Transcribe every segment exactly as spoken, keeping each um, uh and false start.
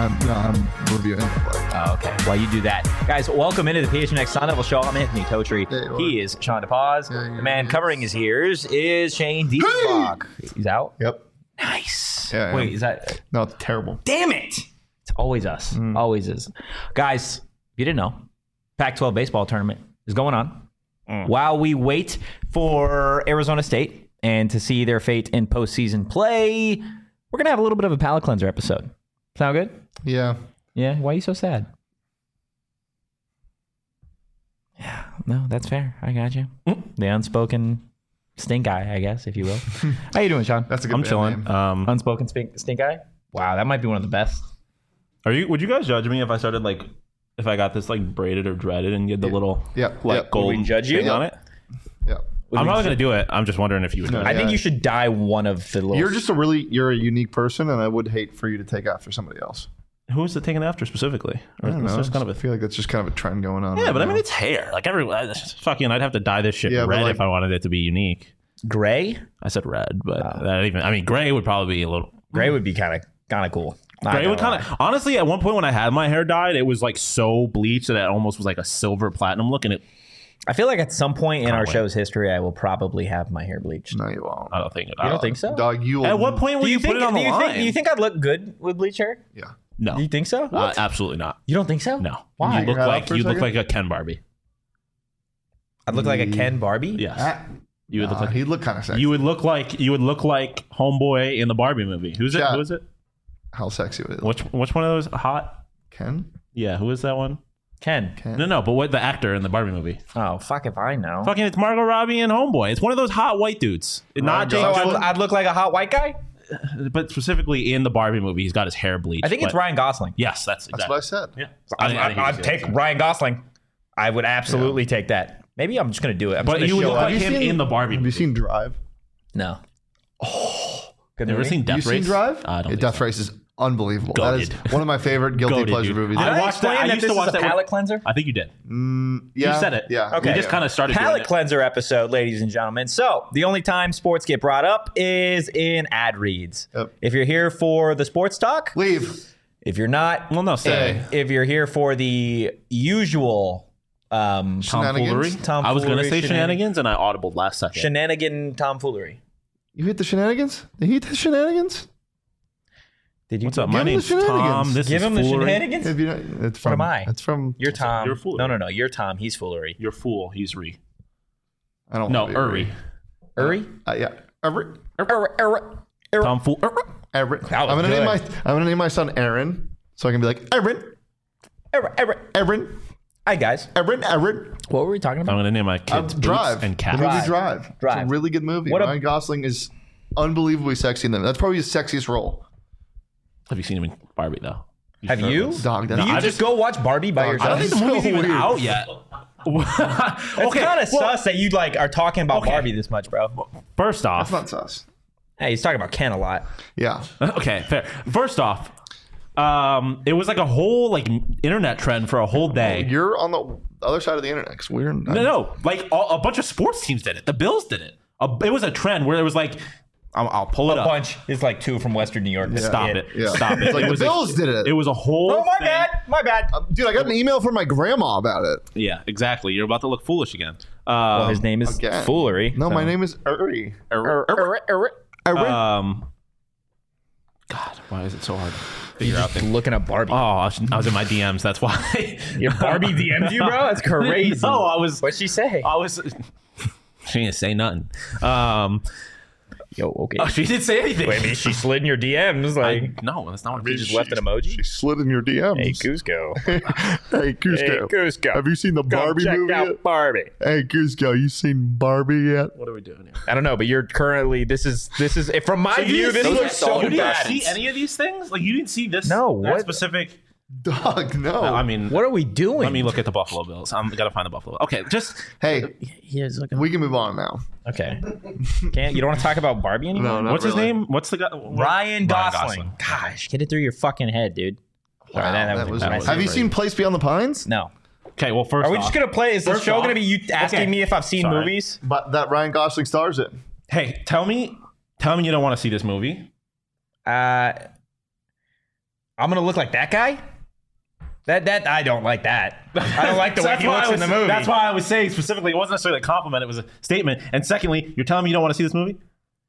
I'm, no, I'm reviewing it. Oh, okay. While you do that, guys, welcome into the P H N X Sun Devil Show. I'm Anthony Totri. Yeah, he is Sean DePaz. Yeah, the man is. covering his ears is Shane Diefenbach. Hey! He's out. Yep. Nice. Yeah, Wait, yeah. is that? No, it's terrible. Damn it! It's always us. Mm. Always is. Guys, if you didn't know, Pac twelve baseball tournament is going on. Mm. While we wait for Arizona State and to see their fate in postseason play, we're gonna have a little bit of a palate cleanser episode. Sound good? Yeah. Yeah. Why are you so sad? Yeah. No, that's fair. I got you. The unspoken stink eye, I guess, if you will. How you doing, Sean? That's a good I'm band chilling. name. Um, Unspoken stink, stink eye? Wow, that might be one of the best. are you? Would you guys judge me if I started like, if I got this like braided or dreaded and you had the Yeah. little Yeah. like Yeah. gold Would we judge you? thing on it? Yeah. I'm probably gonna do it. I'm just wondering if you would. No, do it. I think Yeah. you should dye one of the little... You're just a really, you're a unique person, and I would hate for you to take after somebody else. Who is it taken after specifically? Or I don't is know. this kind of I a feel like that's just kind of a trend going on. yeah, right but I mean now. it's hair. Like every uh, fucking, I'd have to dye this shit Yeah, but, red like- if I wanted it to be unique. Gray? I said red, but that even. I mean, gray would probably be a little. Gray would be kind of kind of cool. Not Gray gonna would kind lie. of honestly. At one point when I had my hair dyed, it was like so bleached that it almost was like a silver platinum look, and it. I feel like at some point in our wait. show's history, I will probably have my hair bleached. No, you won't. I don't think it. You don't think so? Dog, you will. At what point will Do you, you think? put it on do the you line? think? Do you think I'd look good with bleached hair? Yeah. No, Do you think so? Uh, absolutely not. You don't think so? No. Why? You look Your head like up for a you look second? like a Ken Barbie. I'd look like a Ken Barbie. Yes. Ah, You would look nah, like he'd look kind of sexy. you would look like you would look like Homeboy in the Barbie movie. Who's it? Chat. Who is it? How sexy would it look? Which which one of those hot? Ken? Yeah, who is that one? Ken. Ken? No, no, but what the actor in the Barbie movie? Oh fuck if I know. Fucking, it's Margot Robbie and Homeboy. It's one of those hot white dudes. Not Ryan So Jake I'd, Gosling. I'd look like a hot white guy. Gyllenhaal, but specifically in the Barbie movie, he's got his hair bleached. I think it's but- Ryan Gosling. Yes, that's That's exactly. what I said. Yeah, I'd, I- I think I'd, he's- I'd take Ryan Gosling. I would absolutely take that. Maybe I'm just gonna do it. I'm But just you would gonna look show like up. you him seen- in the Barbie Have you movie. seen Drive? No. Oh, good You ever movie? seen Death you Race? seen Drive? I don't Yeah, think Death so. Race is unbelievable. That is Goated. one of my favorite guilty Goated, pleasure dude. movies. I Did I, watched explain that- I that used to this watch is a that when- palate cleanser? I think you did. Mm, yeah, You said it. Yeah. Okay. You just kind of started doing Palate it. cleanser episode, ladies and gentlemen. So the only time sports get brought up is in ad reads. Yep. If you're here for the sports talk, Leave. if you're not, Well, no, say. if, if you're here for the usual um, Tomfoolery. Shenanigans? I was going to say Tomfoolery, shenanigans, and I audibled last second. shenanigan tomfoolery. You hit the shenanigans? Did he hit the shenanigans? Did you? What's up? Give My him the name's Tom. shenanigans. This Give is him the foolery. shenanigans. If you know, it's from, am I? It's from. You're Tom. You're foolery. No, no, no. You're Tom. He's foolery. You're fool. He's re. I don't No, want to be Uri. Uri? Uh, yeah. Uri. Uri, Uri, Uri. Tom fool. Aaron. I'm was gonna good. name my I'm gonna name my son Aaron, so I can be like Aaron, Uri, Uri. Aaron, Hi, guys. Aaron, Aaron. What were we talking I'm about? going to name my Um, kids Boots Drive and The Cat. movie Drive. Drive. Drive. It's a really good movie. What a- Ryan Gosling is unbelievably sexy in them. That's probably his sexiest role. Have you seen him in Barbie though? Have you? Dog, Do that's you I just just- go watch Barbie by Dog, yourself? I don't think the So movie's even weird. out yet. It's okay, kind of well, sus that you like are talking about Okay. Barbie this much, bro. First off, That's not sus. Hey, he's talking about Ken a lot. Yeah. okay, fair. First off, um, it was like a whole like internet trend for a whole day. You're on the other side of the internet. 'Cause we're No, no, like all, a bunch of sports teams did it. The Bills did it. A, it was a trend where it was like, I'll, I'll pull it A up. bunch. It's like two from Western New York. Stop it. Yeah. Stop it. It's like it the was Bills a, did it. It was a whole. Oh, my thing. bad. My bad. Dude, I got an email from my grandma about it. Yeah, exactly. You're about to look foolish again. Um, Well, his name is Again. Foolery. No, so- my name is Uri. Er, er, er, er. Um, God, why is it so hard to figure out Just things? looking at Barbie. Oh, I was, I was in my D Ms. That's why. Your Barbie D M'd you, bro? That's crazy. No, I was. What'd she say? I was. She didn't say nothing. Um, Yo, okay. oh, she didn't say anything. Wait, I mean, she slid in your D Ms. Like, I, no, that's not what she I just left an emoji. She slid in your D Ms. Hey, Cusco. Hey, Cusco. Hey, Cusco. Have you seen the Come Barbie check movie out yet? Barbie. Hey, Cusco, you seen Barbie yet? What are we doing here? I don't know, but you're currently. This is. This is. From my So you view, didn't this see looks that? so You didn't bad. see any of these things? Like you didn't see this? No, that what- specific? Dog, no. I mean, What are we doing? let me look at the Buffalo Bills. I'm gotta find the Buffalo. Okay, just hey, He is looking. we can move on now. Okay. Can't you don't want to talk about Barbie anymore? No, not what's really. his name? What's the guy? Ryan Gosling. Gosh, get it through your fucking head, dude. Sorry, Wow, that, that that was, was- embarrassing. have you crazy. seen Place Beyond the Pines? No. Okay, well, first Are we off, just gonna play? Is this First show off- gonna be you asking Okay. me if I've seen Sorry. movies? But that Ryan Gosling stars in. hey, tell me, tell me you don't want to see this movie. Uh, I'm gonna look like that guy. That that I don't like that. I don't like the So way that's he why looks I in was- the movie. That's why I was saying specifically, it wasn't necessarily a compliment, it was a statement. And secondly, you're telling me you don't want to see this movie?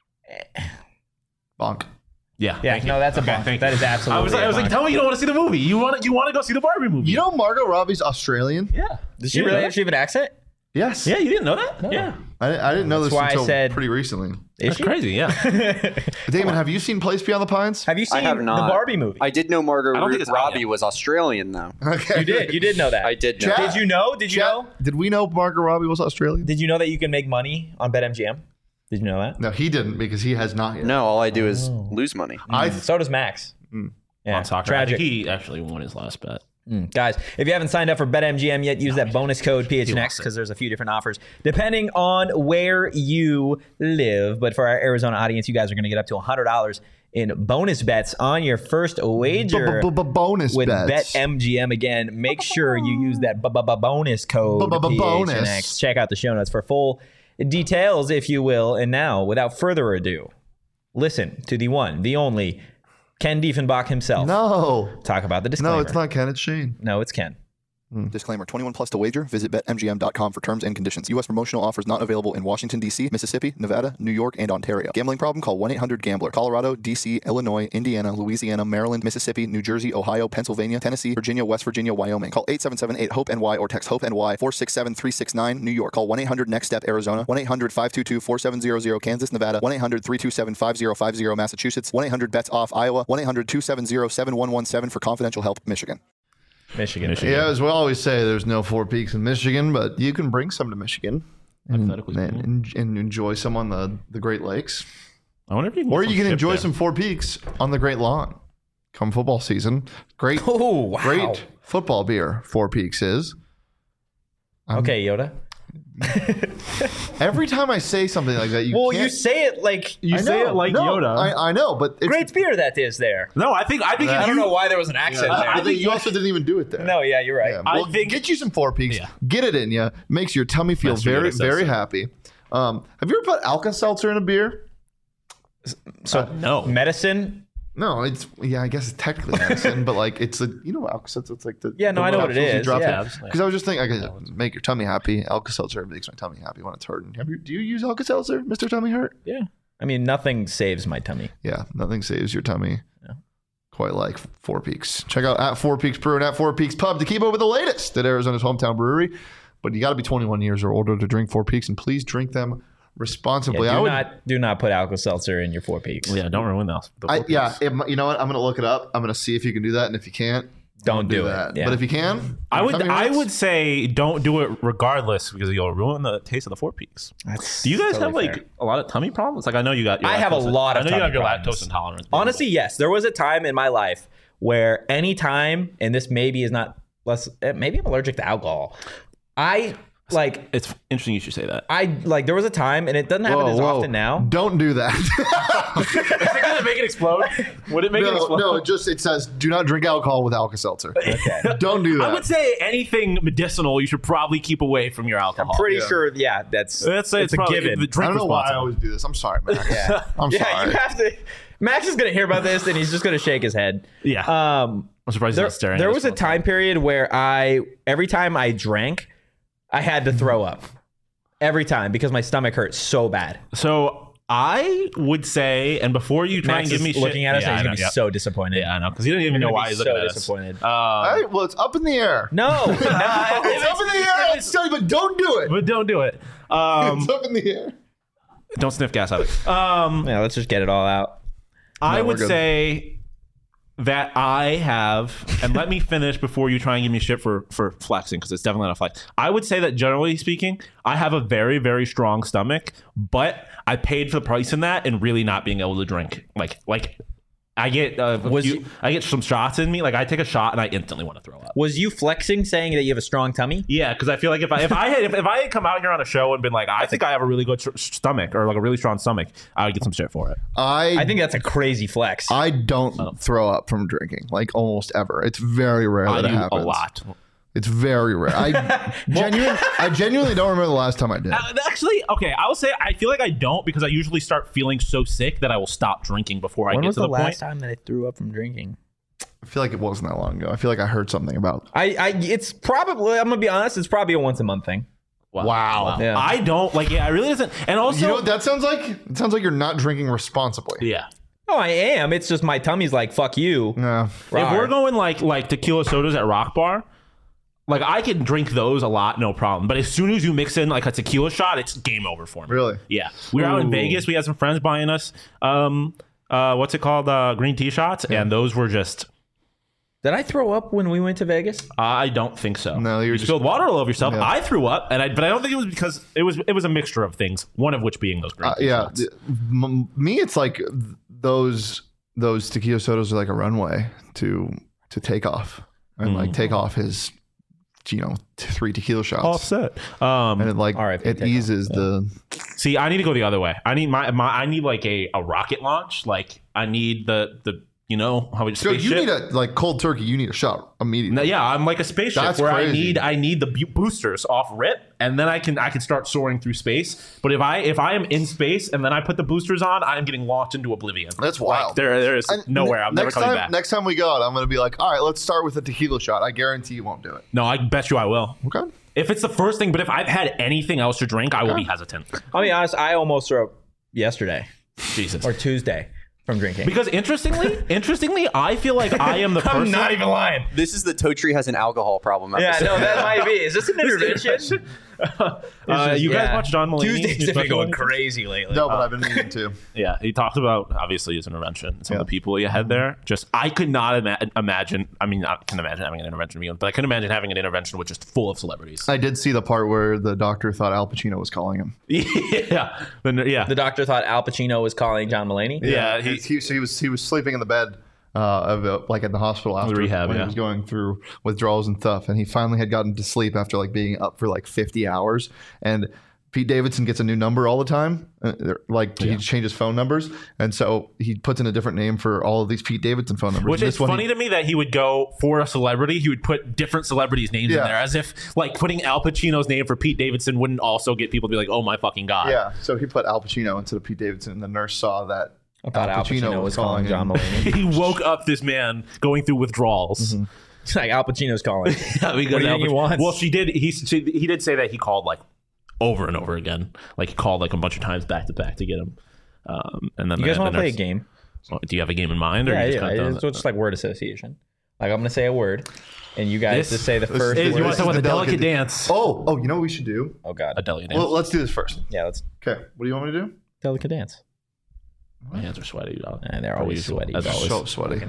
Bonk. Yeah. Yeah, thank you. no, that's a Okay, bonk. thank That you. is absolutely I was like, a I was like, bonk. tell me you don't want to see the movie. You want to, you want to go see the Barbie movie. You know Margot Robbie's Australian? Yeah. Does she You really know have she have an accent? Yes. that? Yeah, you didn't know that? Yeah. I, I didn't know That's this why I until said- pretty recently. Is That's she? crazy, yeah. Damon, have you seen Place Beyond the Pines? Have you I seen have not. the Barbie movie? I did know Margot I don't think it's out Robbie yet. was Australian, though. Okay. you did. You did know that. I did know. Chat- that. Did you know? Did you Chat- know? Did we know Margot Robbie was Australian? Did you know that you can make money on BetMGM? Did you know that? No, he didn't because he has not yet. No, all I do is Oh. lose money. I So does Max. Yeah, On soccer. I tragic. think he actually won his last bet. Mm. Guys, if you haven't signed up for BetMGM yet, use that bonus code P H N X lost it. because there's a few different offers depending on where you live. But for our Arizona audience, you guys are going to get up to one hundred dollars in bonus bets on your first wager bonus with bets. BetMGM. Again, make sure you use that bu- bu- bu- bonus code P H N X. Bonus. Check out the show notes for full details, if you will. And now, without further ado, listen to the one, the only Ken Diefenbach himself No. talk about the disclaimer. No, it's not Ken. It's Shane. No, it's Ken. Disclaimer, twenty-one plus to wager. Visit bet M G M dot com for terms and conditions. U S promotional offers not available in Washington, D C, Mississippi, Nevada, New York, and Ontario. Gambling problem? Call one eight hundred gambler. Colorado, D C, Illinois, Indiana, Louisiana, Maryland, Mississippi, New Jersey, Ohio, Pennsylvania, Tennessee, Virginia, West Virginia, Wyoming. Call eight seven seven eight hope N Y or text HOPE-N Y four six seven three six nine. New York. Call one eight hundred next step Arizona. one eight hundred five two two four seven zero zero Kansas, Nevada. one eight hundred three two seven five zero five zero Massachusetts. one eight hundred bets off Iowa. one eight hundred two seven zero seven one one seven for confidential help, Michigan. Michigan. Michigan. Yeah, as we always say, there's no Four Peaks in Michigan, but you can bring some to Michigan and, Hypothetically and, and, and enjoy some on the, the Great Lakes. I wonder if you can Or get you some can ship enjoy there. some Four Peaks on the Great Lawn. Come football season. Great, Oh, wow. great football beer, Four Peaks is. Okay, Yoda. Every time I say something like that, you Well, can't. you say it like You I say know. it like No, Yoda. I, I know, but it's, great beer that is there. no, I think I think if I don't you, know why there was an accent I, there. I think you also didn't even do it there. No, yeah, you're right. Yeah, I well, think- get you some Four Peaks. Yeah. Get it in you. Makes your tummy feel Master very, Yoda says very so. happy. Um, have you ever put Alka-Seltzer in a beer? So Uh, no. medicine. No, it's yeah. I guess it's technically medicine, but like it's a you know Alka-Seltzer. It's like the Yeah, no, the I know what it capsules you is, drop yeah. in. Because I was just thinking, I could make your tummy happy. Alka-Seltzer makes my tummy happy when it's hurting. Have you, do you use Alka-Seltzer, Mister Tummy Hurt? Yeah. I mean, nothing saves my tummy. Yeah, nothing saves your tummy quite like Four Peaks. Check out at Four Peaks Brew and at Four Peaks Pub to keep up with the latest at Arizona's hometown brewery. But you got to be twenty-one years or older to drink Four Peaks, and please drink them responsibly. Yeah, I do would, not do not put Alka-Seltzer in your Four Peaks. Yeah, don't ruin those. the I, Four yeah, Peaks. it, you know what? I'm gonna look it up. I'm gonna see if you can do that, and if you can't, Don't do it. that. Yeah. But if you can, I would tummy I hurts? would say don't do it regardless because you'll ruin the taste of the Four Peaks. That's Do you guys totally have like fair. a lot of tummy problems? Like I know you got. Your I have a lactose- lot of I know you have tummy your problems. lactose intolerance. Honestly, yes. There was a time in my life where any time, and this maybe is not less, eh, maybe I'm allergic to alcohol. I like, it's interesting you should say that. I like, there was a time, and it doesn't happen Whoa, as whoa. often now. Don't do that. Is it gonna make it explode? Would it make it no, explode? no, it just it says do not drink alcohol with Alka-Seltzer. Okay. Don't do that. I would say anything medicinal you should probably keep away from your alcohol. Pretty Yeah. sure, yeah, that's, That's it's, it's, a probably, given. I Drink don't know why I responsibly. always do this. I'm sorry, Max. Yeah. I'm yeah, sorry. you have to. Max is going to hear about this, and he's just going to shake his head. Yeah. Um, I'm surprised he's there not staring. there at was his a phone. time period where I, every time I drank, I had to throw up. Every time because my stomach hurt so bad. So I would say, and before you try Max and give is me looking shit, at us yeah, and he's I going know, to be yeah. so disappointed. Yeah, I know because he doesn't even You're know gonna why be he's looking so at us. disappointed. Uh, All right, well, it's up in the air. No. It's up in the air. I'll tell you, but don't do it. but don't do it. Um, It's up in the air. don't sniff gas either. Um, Yeah, let's just get it all out. I No, we're would good. say that I have, and let me finish before you try and give me shit for for flexing because it's definitely not a flex. I would say that generally speaking, I have a very very strong stomach, but I paid for the price in that and really not being able to drink. Like like I get uh, a Was few- you- I get some shots in me. Like I take a shot and I instantly want to throw up. Was you flexing saying that you have a strong tummy? Yeah, because I feel like if I if I had if, if I had come out here on a show and been like, I think I have a really good tr- stomach or like a really strong stomach, I would get some shit for it. I I think that's a crazy flex. I don't throw up from drinking, like almost ever. It's very rare I that it do a happens. lot. It's very rare. I genuinely, I genuinely don't remember the last time I did. Uh, Actually, okay, I will say I feel like I don't because I usually start feeling so sick that I will stop drinking before I when get was to the, the, last point. time that I threw up from drinking? I feel like it wasn't that long ago. I feel like I heard something about. I, I, it's probably. I'm gonna be honest. It's probably a once a month thing. Wow. Wow. Yeah. I don't like. Yeah, I really doesn't. And also, You know what that sounds like? It sounds like you're not drinking responsibly. yeah. Oh, I am. It's just my tummy's like fuck you. No. If we're going like like tequila sodas at Rock Bar, like I can drink those a lot, no problem. But as soon as you mix in like a tequila shot, it's game over for me. Really? Yeah. We were out in Ooh. Vegas. We had some friends buying us, um, uh, what's it called, uh, green tea shots, and those were just. Did I throw up when we went to Vegas? I don't think so. No, you were you just- spilled water all over yourself. Yeah. I threw up, and I, but I don't think it was because it was it was a mixture of things. One of which being those green Uh, tea yeah. shots. th- m- me, it's like those those tequila sodas are like a runway to to take off, and like take off his, you know, t- three tequila shots. Offset. Um, And it like R I P it take off. eases the. See, I need to go the other way. I need my, my I need like a, a rocket launch. Like I need the the you know how we So spaceship. you need a like cold turkey. You need a shot immediately. No, yeah, I'm like a spaceship That's where I crazy. need I need the bu- boosters off rip, and then I can I can start soaring through space. But if I if I am in space and then I put the boosters on, I'm getting launched into oblivion. That's Like, wild. there there is And nowhere. ne- I'm never next coming time, back. Next time we go out, I'm going to be like, all right, let's start with a tequila shot. I guarantee you won't do it. No, I bet you I will. Okay. If it's the first thing, but if I've had anything else to drink, I will be hesitant. I'll be honest. I almost threw up yesterday Jesus. or Tuesday from drinking. Because interestingly, interestingly, I feel like I am the person. I'm not even lying. This is the Totri has an alcohol problem Yeah, episode. no, that might be. Is this an intervention? Uh, you guys Yeah. watch John Mulaney's Tuesdays new have been special? going crazy lately. No, but I've been meaning to. Yeah, he talked about obviously his intervention. Some Yeah. of the people he had there. Just I could not ima- imagine. I mean, I can imagine having an intervention, but I can imagine having an intervention with just full of celebrities. I did see the part where the doctor thought Al Pacino was calling him. yeah, the, yeah, The doctor thought Al Pacino was calling John Mulaney. yeah. he, He, he, so he was he was sleeping in the bed uh, of uh, like at the hospital after rehab, when yeah. he was going through withdrawals and stuff, and he finally had gotten to sleep after like being up for like fifty hours. And Pete Davidson gets a new number all the time, uh, they're- like he changes phone numbers, and so he puts in a different name for all of these Pete Davidson phone numbers. which And is this one funny he- to me that he would go for a celebrity. He would put different celebrities' names Yeah. in there, as if like putting Al Pacino's name for Pete Davidson wouldn't also get people to be like, "Oh my fucking god!" Yeah, so he put Al Pacino instead of Pete Davidson, and the nurse saw that I thought Al Pacino was calling John him. Mulaney. He woke up this man going through withdrawals. It's like Al Pacino's calling. Yeah, because What do you Al think he Pac- wants? Well, she did. He she, he did say that he called like over and over again. Like he called like a bunch of times back to back to get him. Um, and then You the- guys the want to play a nurse- game? Oh, do you have a game in mind? Or Yeah, you just yeah. kinda throwing It's it? just like word association. Like I'm gonna say a word, and you guys This- just say the this first Is, is- you word. want to talk about the the delicate, delicate- dance? Oh, oh, you know what we should do? Oh god. A delicate dance. Well, let's do this first. Yeah, let's Okay, what do you want me to do? delicate dance. My hands are sweaty. Dog. And they're Per always usual, sweaty. as always. So sweaty.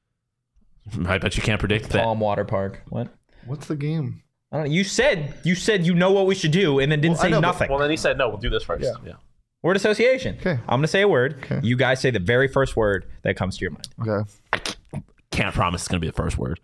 I bet you can't predict that. Palm Water Park. What? What's the game? I don't know. You said you said you know what we should do, and then didn't Well, I say know, but- nothing. Well, then he said no. We'll do this first. Yeah. Yeah. Word association. Okay. I'm gonna say a word. Okay. You guys say the very first word that comes to your mind. Okay. Can't promise it's gonna be the first word.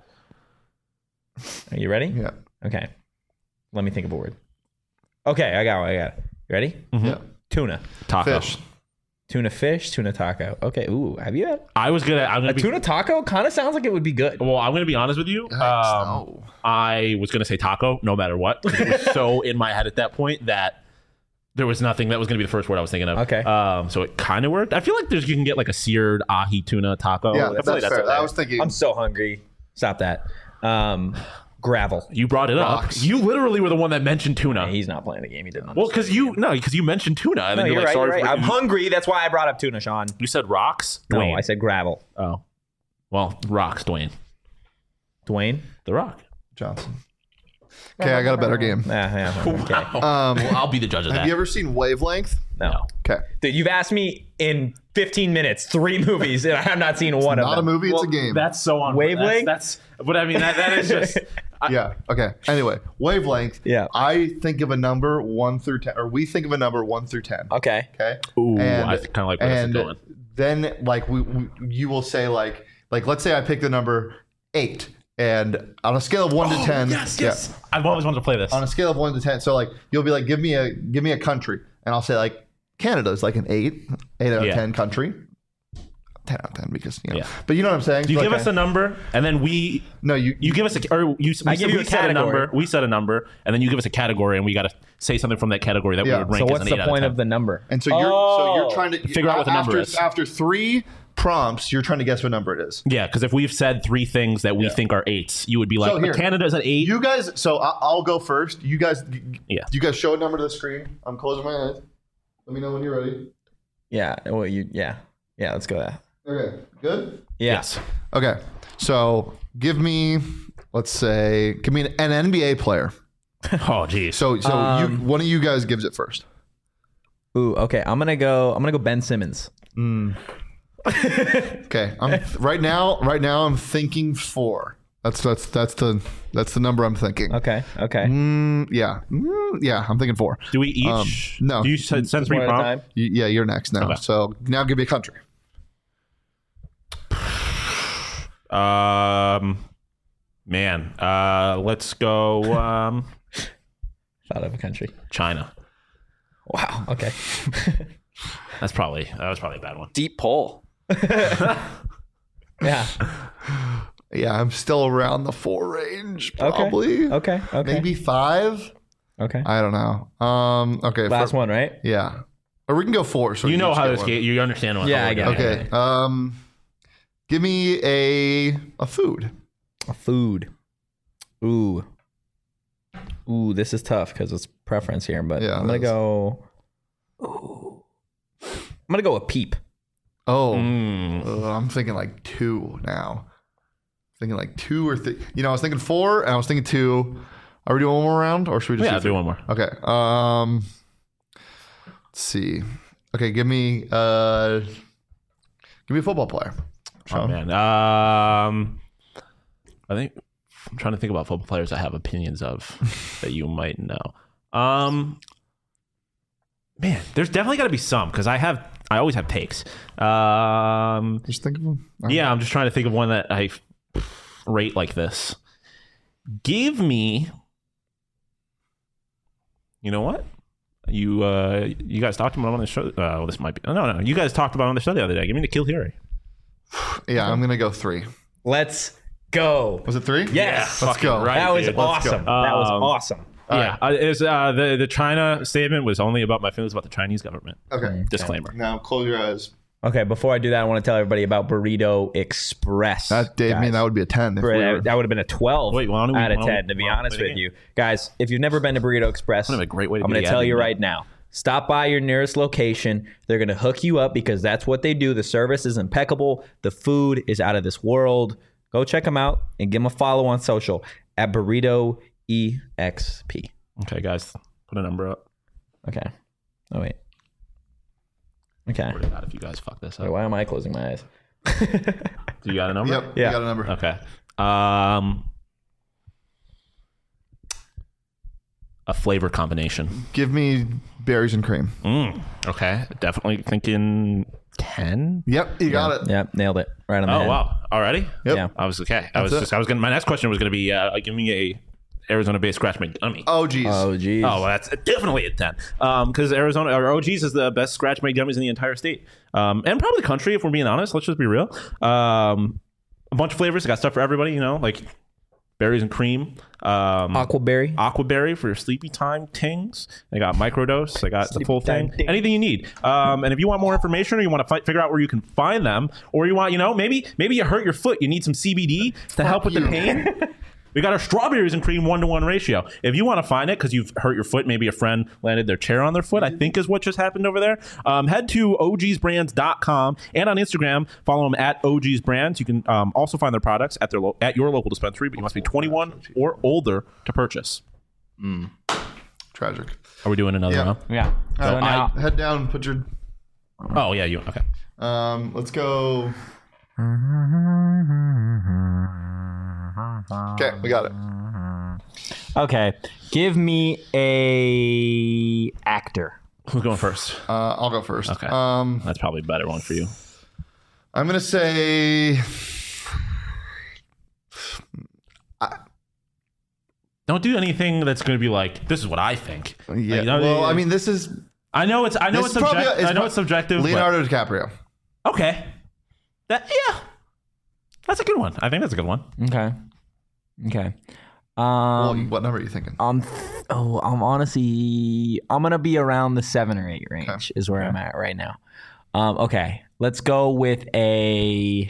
Are you ready? Yeah. Okay. Let me think of a word. Okay, I got it. I got it. You ready? Yeah. Tuna. Taco. Fish. Tuna fish, tuna taco. Okay. Ooh, have you had I was gonna. I'm gonna a be. tuna taco? Kind of sounds like it would be good. Well, I'm gonna be honest with you. Yikes, Um, no. I was gonna say taco, no matter what. It was so in my head at that point that there was nothing that was gonna be the first word I was thinking of. Okay. Um, so it kind of worked. I feel like there's you can get like a seared ahi tuna taco. Yeah, I feel that's, like fair. okay. I was thinking. I'm so hungry. Stop that. Um, gravel. You brought it Rocks. up. You literally were the one that mentioned tuna. He's not playing the game. He didn't. Well, because you no, because you mentioned tuna, and No, then you're you're like, right. sorry You're right. for I'm hungry. That's why I brought up tuna, Sean. You said rocks. No, Dwayne. I said gravel. Oh, well, rocks. Dwayne. Dwayne. The Rock. Johnson. Okay, I got a better game. Yeah, yeah. Okay. Um, Well, I'll be the judge of that. have you ever seen Wavelength? No. Okay. Dude, you've asked me in fifteen minutes three movies, and I have not seen one of Not a them. movie, it's Well, a game. That's so on Wavelength? That's, that's but I mean that that is just I- yeah. Okay. Anyway, Wavelength. Yeah. I think of a number one through ten, or we think of a number one through ten. Okay. Okay. Ooh, And- I kind of like where this is and going. then like we, we you will say like like let's say I pick the number eight, and on a scale of one to ten, Yes, yeah, yes. I've always wanted to play this. on a scale of one to ten, so like you'll be like give me a give me a country, and I'll say like Canada is like an eight, eight out of Yeah. ten country. ten out of ten because you know. Yeah. But you know what I'm saying? You Like, give us a number, and then we no you you give us a or you we, I give you we a set a category. number. We set a number, and then you give us a category, and we got to say something from that category that Yeah. we would rank So as what's an the eight out point of of ten. the number? And so you're so Oh. you're trying to Figure out what the number after, is. After three prompts, you're trying to guess what number it is. Yeah, because if we've said three things that we Yeah. think are eights, you would be like, So here, Canada's at eight. You guys, so I- I'll go first. You guys, Yeah. You guys show a number to the screen. I'm closing my eyes. Let me know when you're ready. Yeah. Well, you. Yeah. Yeah. Let's go there. Okay, good. Yeah. Yes. Okay, so give me, let's say, give me an, an N B A player. Oh, geez. So, so Um, you, one of you guys gives it first. Ooh. Okay. I'm gonna go. I'm gonna go Ben Simmons. Okay, I'm right now. Right now, I'm thinking four. That's that's that's the that's the number I'm thinking. Okay. Okay. Mm, yeah, Mm, yeah, I'm thinking four. Do we each? Um, no. Do you send, send three One at a prompts? time. Y- Yeah, you're next now. Okay. So now give me a country. Um, man, uh, let's go. Um, Thought of a country. China. Wow. Okay. That's probably that was probably a bad one. Deep pull. Yeah. Yeah, I'm still around the four range, probably. Okay. Okay. Maybe five. Okay. I don't know. Um. Okay. Last for- one, right? Yeah. Or we can go four. So You know each how get this one. game. You understand what? Yeah, how I we're get it. doing. Okay. Um. Give me a a food. A food. Ooh. Ooh, this is tough because it's preference here, but Yeah, I'm gonna it is. go. Ooh. I'm gonna go with peep. Oh. Mm. Uh, I'm thinking like two now. Thinking like two or three. You know, I was thinking four and I was thinking two. Are we doing one more round or should we just Yeah, do do one more. Okay. Um. Let's see. Okay, give me uh. Give me a football player. Oh Sean. man. Um, I think I'm trying to think about football players I have opinions of that you might know. Um, man, there's definitely got to be some because I have I always have takes. Um, Just think of them. yeah, I'm just trying to think of one that I rate like this. Give me. You know what? You uh, you guys talked about it on the show. Uh, well, this might be. No, no, you guys talked about it on the show the other day. Give me the Kill Hiri. Yeah, I'm gonna go three. Let's go. Was it three? Yes. Let's go. Right, that was dude. Let's awesome. go. That was Um, awesome. Yeah, uh, it was, uh, the the China statement was only about my feelings about the Chinese government. Okay. Disclaimer. Now close your eyes. Okay, before I do that, I want to tell everybody about Burrito Express. That Dave, guys. mean that would be a ten. If Bro, we that, were, that would have been a twelve Wait, why don't we- out of why don't we- ten, to be why don't we honest play the with game? you. Guys, if you've never been to Burrito Express, What a great way to I'm be going to the tell admin, you man. right now. Stop by your nearest location. They're going to hook you up because that's what they do. The service is impeccable. The food is out of this world. Go check them out and give them a follow on social at Burrito E X P. Okay, guys, put a number up. Okay. Oh, wait. Okay. What about if you guys fuck this Wait, up? why am I closing my eyes? Do you got a number? yep. Yeah. You got a number. Okay. Um, a flavor combination. Give me berries and cream. Mm, okay, definitely thinking ten. Yep. You got it. Yep, nailed it. Right on the Oh head. wow! Already? Yep. Yeah. I was okay. I That's was it. just. I was gonna. My next question was gonna be, uh, give me a Arizona-based scratch made gummy. Oh geez. Oh, geez. Oh, well, that's definitely a ten. Um, because Arizona or O G's is the best scratch made gummies in the entire state, um, and probably the country. If we're being honest, let's just be real. Um, a bunch of flavors. I got stuff for everybody. You know, like berries and cream. Um, Aquaberry. Aquaberry for your sleepy time tings. I got microdose. I got the full time thing. ting. Anything you need. Um, and if you want more information or you want to fi- figure out where you can find them, or you want, you know, maybe maybe you hurt your foot, you need some C B D to help with you. the pain. We got our strawberries and cream one to one ratio. If you want to find it because you've hurt your foot, maybe a friend landed their chair on their foot, I think is what just happened over there. Um, head to O Gs brands dot com and on Instagram, follow them at O Gs Brands. You can um, also find their products at their lo- at your local dispensary, but you must be twenty-one or older to purchase. Tragic. Are we doing another Yeah. round? Yeah. So All right, now, head down. Put your. Oh yeah, you okay? Um. Let's go. Okay, we got it. okay, give me a actor. Who's going first? Uh, I'll go first. Okay. Um. That's probably a better one for you. I'm gonna say. Don't do anything that's going to be like, this is what I think. Yeah. You know, well, I mean, this is I know it's I know this it's is probably subjective. a- I know pro- it's subjective. but- Leonardo DiCaprio. Okay. That yeah. That's a good one. I think that's a good one. Okay. Okay. Well, Um, what number are you thinking? I'm th- oh, I'm honestly I'm gonna be around the seven or eight range Okay. is where I'm at right now. Um, okay, let's go with a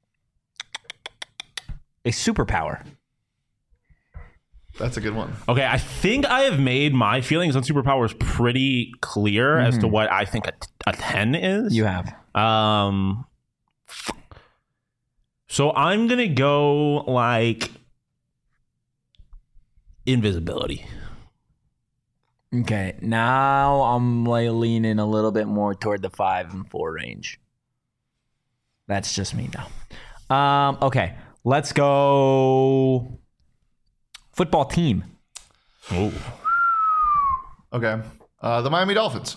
a superpower. That's a good one. Okay, I think I have made my feelings on superpowers pretty clear mm-hmm. as to what I think a, a ten is. You have. Um, so I'm gonna go like invisibility. Okay, now I'm like leaning a little bit more toward the five and four range. That's just me though. Um, okay, let's go. Football team. Oh. Okay. Uh, the Miami Dolphins.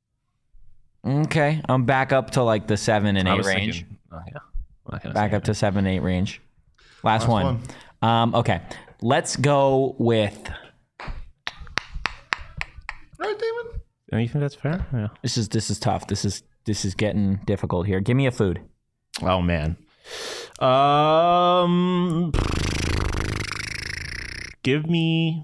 Okay. I'm back up to like the seven and I eight was range. Thinking, oh, yeah. Back up to seven, eight range. Last, Last one. one. Um, okay. Let's go with. Right, Damon? Do you think that's fair? Yeah. This is this is tough. This is this is getting difficult here. Give me a food. Oh man. Um. Give me.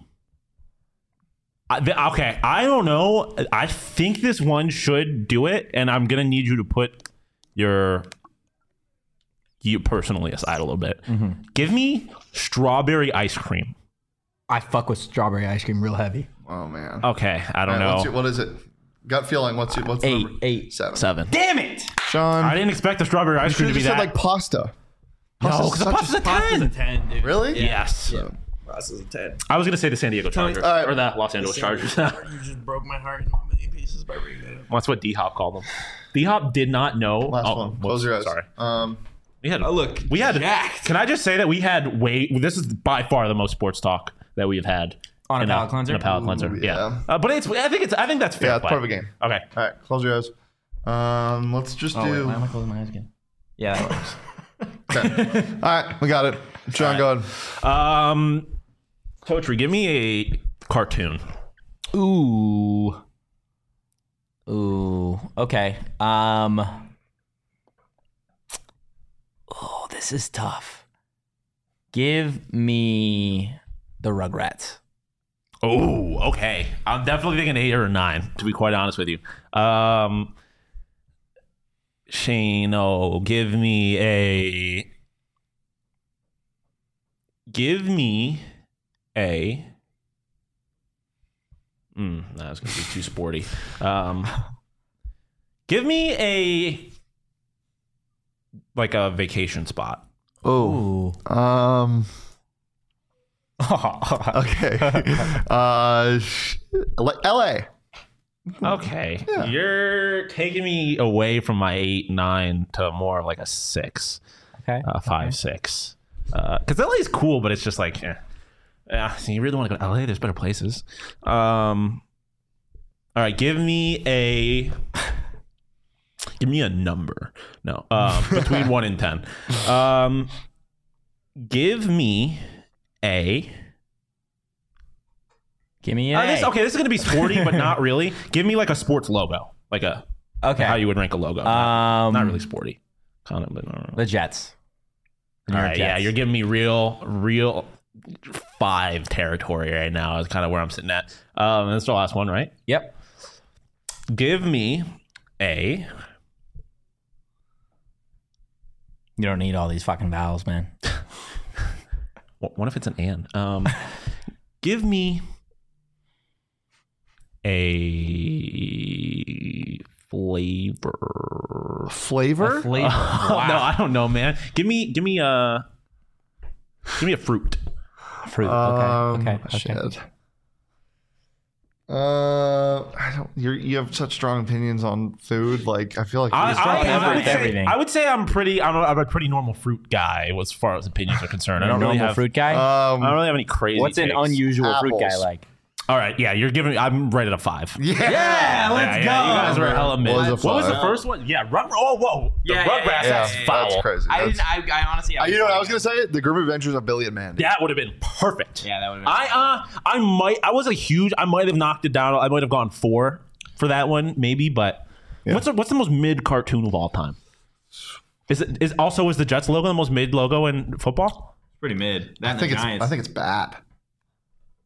Okay, I don't know. I think this one should do it, and I'm gonna need you to put your you personally aside a little bit. Mm-hmm. Give me strawberry ice cream. I fuck with strawberry ice cream real heavy. Oh man. Okay, I don't All right, know. what's your, what is it? Gut feeling. What's your, what's the Eight, number? eight, seven. Seven. Damn it! Sean, I didn't expect the strawberry ice you cream should to have be just that. said like pasta. no, Pasta's because the such a- pasta's a ten. ten, dude. Really? Yes. Yeah. Pasta's a ten. I was gonna say the San Diego Chargers All right. or the Los Angeles Chargers. You just broke my heart in a million pieces by bringing that up. That's what D Hop called them. D Hop did not know. Last oh, one. whoops, Close your eyes. Sorry. Um, We had. Oh, look, we had. jacked. Can I just say that we had way. This is by far the most sports talk that we've had On a in palate cleanser? In a palate cleanser. Ooh, yeah. yeah. Uh, but it's. I think it's. I think that's fair. yeah, it's play. part of a game. Okay. All right, close your eyes. Um, let's just Oh, wait, do. why am I closing my eyes again? Yeah, that works. Okay. All right, we got it. Sean, go ahead. Um, Totri, give me a cartoon. Ooh. Ooh. Okay. Um. Oh, this is tough. Give me the Rugrats. Oh, okay. I'm definitely thinking eight or a nine, to be quite honest with you. Um, Shane, oh, give me a. Give me a. Mm, that's going to be too sporty. Um, give me a. Like a vacation spot. Oh. Um. Okay. uh, sh- like L A. Okay. Yeah. You're taking me away from my eight, nine to more like a six. Okay. Uh, five, okay. six. Because L A is cool, but it's just like, eh. Yeah, so you really want to go to L A? There's better places. Um, all right, give me a... Give me a number. No. Um, between one and ten. Um, give me a... Give me an Uh, A. this, okay, this is going to be sporty, but not really. Give me like a sports logo. Like a... Okay. How you would rank a logo. Um, not really sporty. Kind of, but not really. The Jets. All right, yeah, you're giving me real, real five territory right now. Is kind of where I'm sitting at. Um, that's the last one, right? Yep. Give me a. You don't need all these fucking vowels, man. What, what if it's an and? Um, give me a flavor. Flavor? Flavor. No, I don't know, man. Give me, give me a, give me a fruit. Fruit. Um, Okay. Okay. Okay. Shit. Uh, I don't. You're, you have such strong opinions on food. Like, I feel like I, you're I, strong I, would everything. say, everything. I would say I'm pretty. I'm a, I'm a pretty normal fruit guy as far as opinions are concerned. I don't Normal really have fruit guy. Um, I don't really have any crazy. What's an takes. unusual fruit guy Apples. like? All right, yeah, you're giving. I'm right at a five. yeah. Yeah, let's Yeah, go. yeah, you guys were hella mid. Was a What was the five. first one? Yeah, Rug. Oh, whoa. The Yeah, yeah, Rugrats. yeah, That's Yeah, foul. that's crazy. I That's- didn't. I, I honestly. Uh, you know what I was gonna say? The Grim Adventures of Billy and Mandy. That would have been perfect. Yeah, that would have been. I uh, I might. I was a huge. I might have knocked it down. I might have gone four for that one, maybe. But Yeah. what's the, what's the most mid cartoon of all time? Is it is also is the Jets logo the most mid logo in football? Pretty mid. That I think it's. I think it's bad.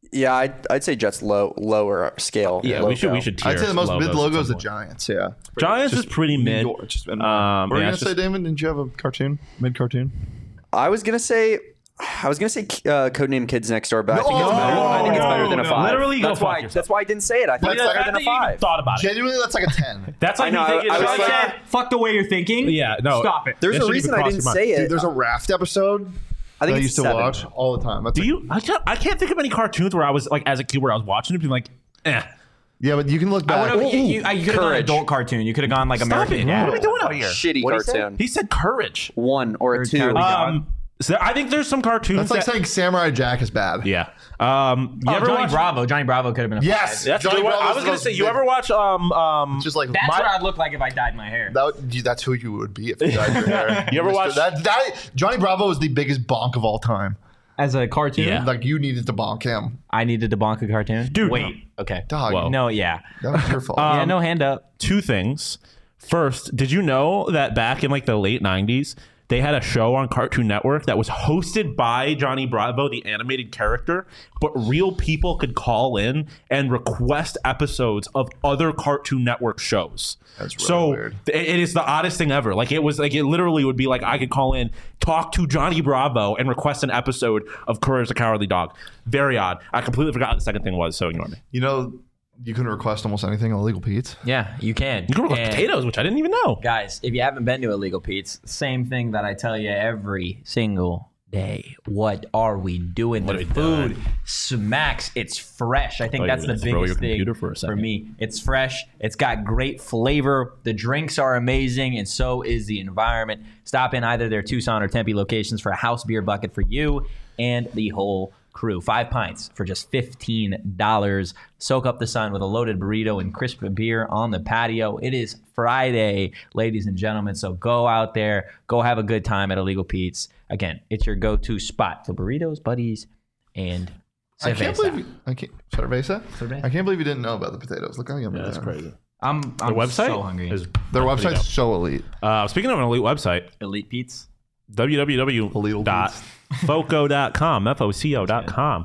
Yeah, I'd, I'd say Jets low, lower scale. Yeah, low we should go. we should. Tier I'd say the most mid logos logo at is the some point. Giants. Yeah, Giants is pretty New mid. York, just been- Um, what were yeah, you it's gonna say, just- Damon? Didn't you have a cartoon, mid cartoon? I was gonna say, I was gonna say uh, Codename Kids Next Door, but I think it's No, better. I think it's better than a no, five. literally go that's fuck why. yourself. That's why I didn't say it. I think But it's the better fact than that a you even five. thought about it. Genuinely, that's like a ten. That's like I know, me thinking. I was it's like- like, Fuck the way you're thinking. yeah, no. Stop it. There's That a shouldn't reason even I cross didn't your say mind. it. Dude, there's a Raft episode I think that I it's used to seven. watch all the time. That's Do like- you? I can't. I can't think of any cartoons where I was like, as a kid, where I was watching it, being like, eh. Yeah, but you can look I back. would've- you, you, you could have gone Courage. adult cartoon. You could have gone like Stop American it! Dad. What are we doing out here? Shitty What'd he say? cartoon. He said courage. One or a Or two. Charlie Dog. Um, so I think there's some cartoons. That's like that, saying Samurai Jack is bad. yeah. Um, you Oh, ever Johnny watch? Bravo. Johnny Bravo could have been a Yes, five. That's a Johnny good one. Bravo's I was the gonna most say, you big- ever watch um um? Just like That's my, what I'd look like if I dyed my hair. that would, you- that's who you would be if you dyed your hair. You ever Mister watch- that, that? Johnny Bravo is the biggest bonk of all time. As a cartoon. Yeah. Like you needed to bonk him. I needed to bonk a cartoon. Dude, wait. Okay. Dog, Whoa. No, yeah. that was your fault. yeah, Um, no hand up. two things. First, did you know that back in like the late nineties, they had a show on Cartoon Network that was hosted by Johnny Bravo, the animated character, but real people could call in and request episodes of other Cartoon Network shows. That's really so weird. th- it is the oddest thing ever. Like it was like it literally would be like I could call in, talk to Johnny Bravo, and request an episode of Courage the Cowardly Dog. Very odd. I completely forgot what the second thing was, so ignore me. You know, you can request almost anything on Illegal Pete's. Yeah, you can. You can request And potatoes, which I didn't even know. Guys, if you haven't been to Illegal Pete's, same thing that I tell you every single day. What are we doing? What the are we food doing? smacks. It's fresh. I think thought you that's were the gonna throw biggest your thing computer for a second. me. It's fresh. It's got great flavor. The drinks are amazing, and so is the environment. Stop in either their Tucson or Tempe locations for a house beer bucket for you and the whole crew. Five pints for just fifteen dollars. Soak up the sun with a loaded burrito and crisp beer on the patio. It is Friday, ladies and gentlemen, so go out there. Go have a good time at Illegal Pete's. Again, it's your go-to spot for burritos, buddies, and I can't cerveza. believe you, I can't cerveza? Cerveza. I can't believe you didn't know about the potatoes. Look how yummy That's they are. crazy. I'm, I'm Their website so hungry. is Their pretty website's dope. so elite. Uh, speaking of an elite website, Elite Pete's. w w w Illegal dot foco dot com, F O C O dot com.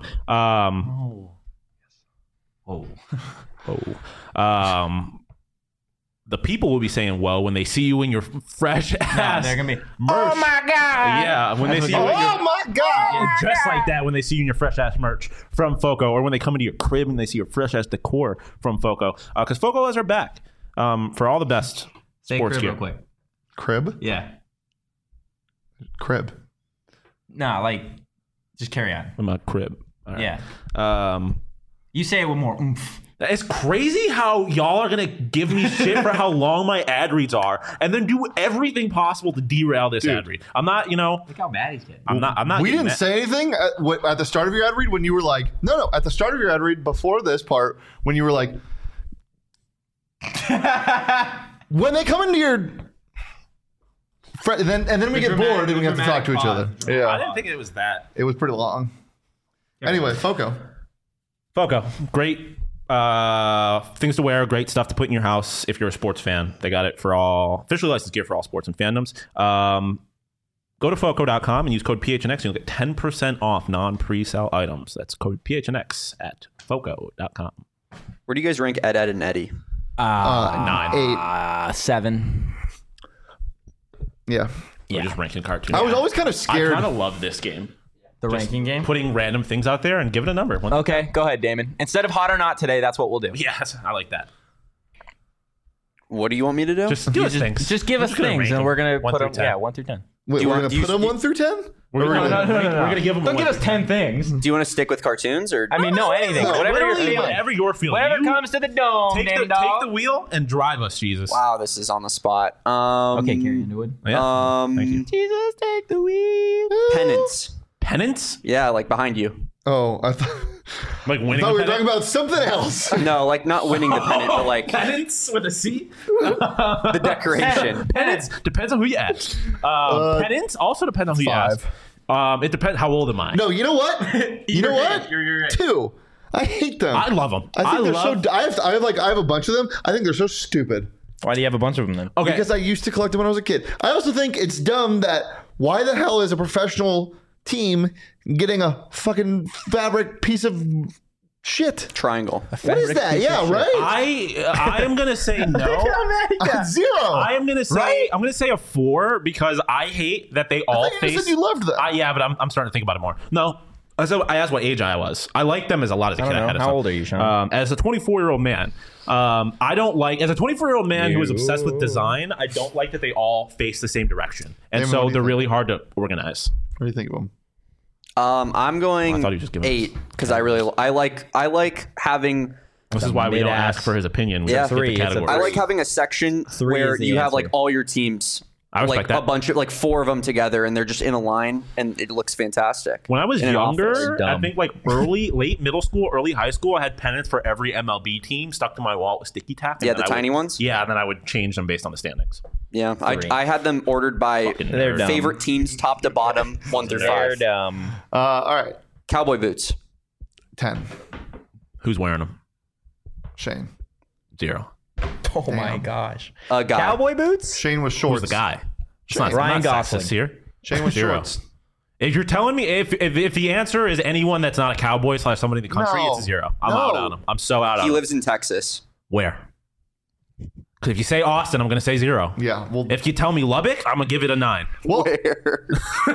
Um, Oh. oh, um, the people will be saying, "Well," when they see you in your fresh ass. they're gonna be, merch. oh my God. Yeah, when they That's see you what in they- your Oh my god! dressed like that, when they see you in your fresh ass merch from Foco, or when they come into your crib and they see your fresh ass decor from Foco, because Foco has our back um, for all the best Say sports crib gear. real quick. Crib? Yeah. Crib. Nah, like, just carry on. I'm a crib. All right. Yeah. Um, You say it with more oomph. It's crazy how y'all are gonna give me shit for how long my ad reads are, and then do everything possible to derail this ad read. I'm not, you know, Look how bad he's getting. I'm not. I'm not. We getting didn't mad. say anything at, what, at the start of your ad read when you were like, no, no, at the start of your ad read before this part, when you were like, when they come into your. Fre- then and then we get dramatic- bored and we the have to talk to each other. dramatic pause. I Yeah, didn't think it was that. it was pretty long. Anyway, Foco. Foco, great uh, things to wear, great stuff to put in your house if you're a sports fan. They got it for all officially licensed gear for all sports and fandoms. Um, go to foco dot com and use code P H N X and you'll get ten percent off non-pre-sale items. That's code P H N X at foco dot com. Where do you guys rank Ed, Ed, and Eddie? Uh, nine. Eight. Uh, seven. Yeah. We're just ranking cartoons. I was always kind of I scared. kind of love this game. The ranking game? Putting random things out there and give it a number. One- Okay, go ahead, Damon. Instead of hot or not today, that's what we'll do. Yes, I like that. What do you want me to do? Just give us just, things. Just give We're us just gonna things, rank and them. we're gonna One put through them. ten. Yeah, one through ten. Wait, you we're want- going do to you- put them one through ten? We're gonna, no, no, no, no. we're gonna give them. Don't a give one us ten things. Do you want to stick with cartoons or? I mean, no, anything. Whatever you're Literally, feeling. whatever you're feeling. Whatever You comes to the dome, take damn the, dog. take the wheel and drive us, Jesus. Wow, this is on the spot. Um, Okay, Carrie Underwood. Yeah. Um, Thank you. Jesus, take the wheel. Pennants. Penance? Yeah, like behind you. Oh, I thought, Like I winning thought a we were pennant? talking about something else. No, like not winning the pennant, but like Penance with a C? the decoration. Penance depends on who you ask. Um, penance also depends on who five. you ask. Um, it depends. How old am I? No, you know what? You know what? You're, you're right. Two. I hate them. I love them. I think they're love, so. I have. I have like. I have a bunch of them. I think they're so stupid Why do you have a bunch of them then? Okay. because I used to collect them when I was a kid. I also think it's dumb that why the hell is a professional team getting a fucking fabric piece of Shit. Triangle. What is that? Yeah, right? I I am gonna say no. Uh, zero. I am gonna say Right? I'm gonna say a four because I hate that they all I thought you face. said you loved them. I, yeah, but I'm, I'm starting to think about it more. No. So I asked what age I was. I liked them as a lot as a I kid. don't know. had How some. old are you, Sean? Um, as a twenty-four year old man, um, I don't like as a twenty-four year old man who is obsessed with design. I don't like that they all face the same direction, and Damon, what so do you they're think? really hard to organize. What do you think of them? Um, I'm going I thought he was just giving eight because I really I like I like having This is why we don't mid-ass. ask for his opinion. We Yeah. just skip Three, the it's a categories. I like having a section Three where is the you have answer. like all your teams, I respect like that. a bunch of like four of them together, and they're just in a line, and it looks fantastic. When I was in an office. younger, I Dumb. think like early, late middle school, early high school, I had pennants for every M L B team stuck to my wall with sticky tack. and Yeah, then the I would- tiny ones? Yeah, and then I would change them based on the standings. Yeah, I, Three. I had them ordered by Fucking They're nerd. dumb. favorite teams, top to bottom, one through They're five. dumb. Uh, all right. Cowboy boots. ten. Who's wearing them? Shane. Zero. Oh my Damn. gosh. A guy. Cowboy boots? Shane was Who's shorts. the guy? It's not, Ryan not Gosling. sexist here. Shane was Zero. shorts. If you're telling me if, if if the answer is anyone that's not a cowboy slash somebody in the country, No. it's a zero. I'm No. out on him. I'm so out on He him. lives in Texas. Where? Because if you say Austin, I'm going to say zero. Yeah. Well, If you tell me Lubbock, I'm going to give it a nine. well Where?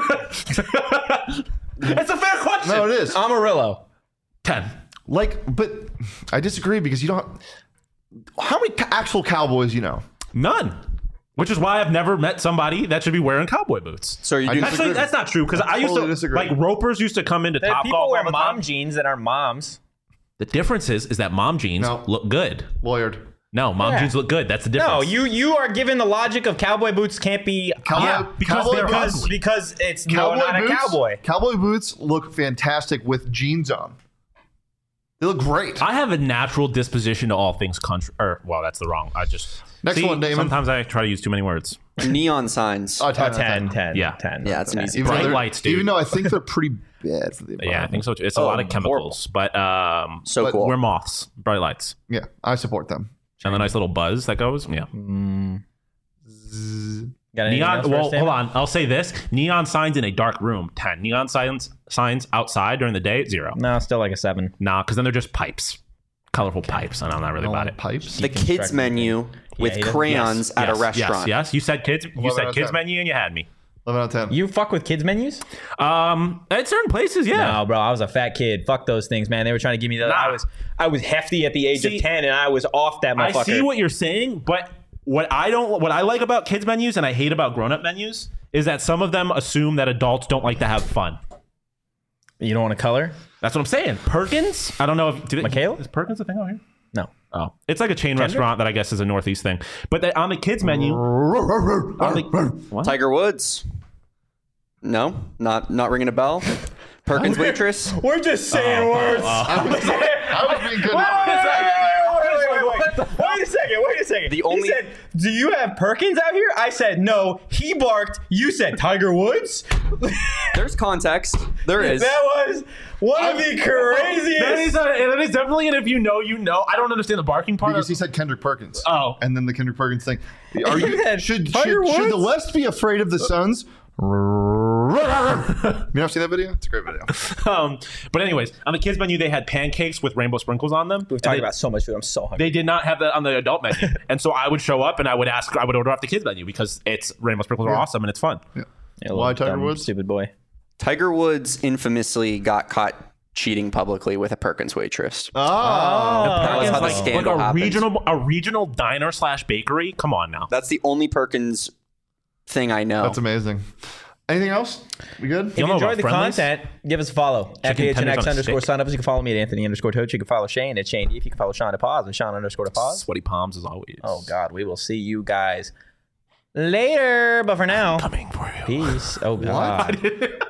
It's a fair question. no, it is. Amarillo. ten. Like, but I disagree because you don't. How many ca- actual cowboys you know? None. Which is why I've never met somebody that should be wearing cowboy boots. So you I do. disagree. Actually, that's not true because I, used totally to disagree. like ropers used to come into There- Top people Golf wear all the mom time. jeans that aren't moms. The difference is is that mom jeans No. look good. Lawyered. No, mom Yeah. jeans look good. That's the difference. No, you you are given the logic of cowboy boots can't be Cowboy, Yeah, because cowboy they're boots, ugly. because it's cowboy no, not boots, a cowboy. Cowboy boots look fantastic with jeans on. They look great. I have a natural disposition to all things country. Or well, that's the wrong. I just Next See, one, Damon. Sometimes I try to use too many words. Neon signs. Oh, ten, Oh, out of ten, ten, Yeah. ten. Yeah, it's an easy Even Bright though they're- lights, dude. Even though I think they're pretty bad for the environment. Yeah, I think so too. It's a Oh, lot of chemicals, but um, So but cool. we're moths, bright lights, Yeah, I support them. and the nice little buzz that goes. Yeah, Got anything neon. else for Well, us, Damon? hold on. I'll say this: neon signs in a dark room, ten. Neon signs signs outside during the day, zero. No, still like a seven. Nah, because then they're just pipes, colorful pipes, and I'm not really I about want it. pipes. the kids menu with he doesn't- crayons Yes, at yes, a restaurant. Yes, yes. You said kids. You eleven out said of kids ten. menu, and you had me. eleven out of ten. You fuck with kids menus? Um, at certain places, yeah. No, bro, I was a fat kid. Fuck those things, man. They were trying to give me the. Nah. I was I was hefty at the age See, of ten, and I was off that I motherfucker. see what you're saying, but what I don't, what I like about kids menus and I hate about grown-up menus is that some of them assume that adults don't like to have fun. You don't want to color? That's what I'm saying. Perkins? I don't know if did it, Mikhail? is Perkins a thing out here? No. Oh, it's like a chain restaurant that I guess is a Northeast thing. But they, on the kids menu, on the, what? Tiger Woods. No, not not ringing a bell. Perkins waitress. We're just saying words. I was, I was being good. Wait, wait, wait, wait, wait, wait. Wait a second, wait a second. The only- He said, do you have Perkins out here? I said, no. He barked. You said Tiger Woods? There's context. There is. That was one of the craziest. That is, a, that is definitely an if you know, you know. I don't understand the barking part. Because Of, he said Kendrick Perkins. Oh. And then the Kendrick Perkins thing. Are You you had should should, Tiger should the Woods? West be afraid of the Suns? You ever seen that video? It's a great video. um, but anyways, on the kids menu, they had pancakes with rainbow sprinkles on them. We've And talked they- about so much food. I'm so hungry. They did not have that on the adult menu, and so I would show up and I would ask, I would order off the kids menu because it's rainbow sprinkles are awesome and it's fun. Yeah. Yeah, Why little Tiger dumb, Woods? Stupid boy. Tiger Woods infamously got caught cheating publicly with a Perkins waitress. Oh. That was how the like, scandal like a happened. regional, a regional diner slash bakery. Come on now. That's the only Perkins thing I know. That's amazing. Anything else? We good? If You you know enjoyed about the friendlies? content, give us a follow. At Chicken P H N X tenders on a underscore stick. sign up. You can follow me at Anthony underscore Toach. You can follow Shane at Shane. If you can follow Sean at Pause and Sean underscore to Pause. Sweaty palms as always. Oh, God. We will see you guys later. But for now, Coming for you. peace. Oh, God.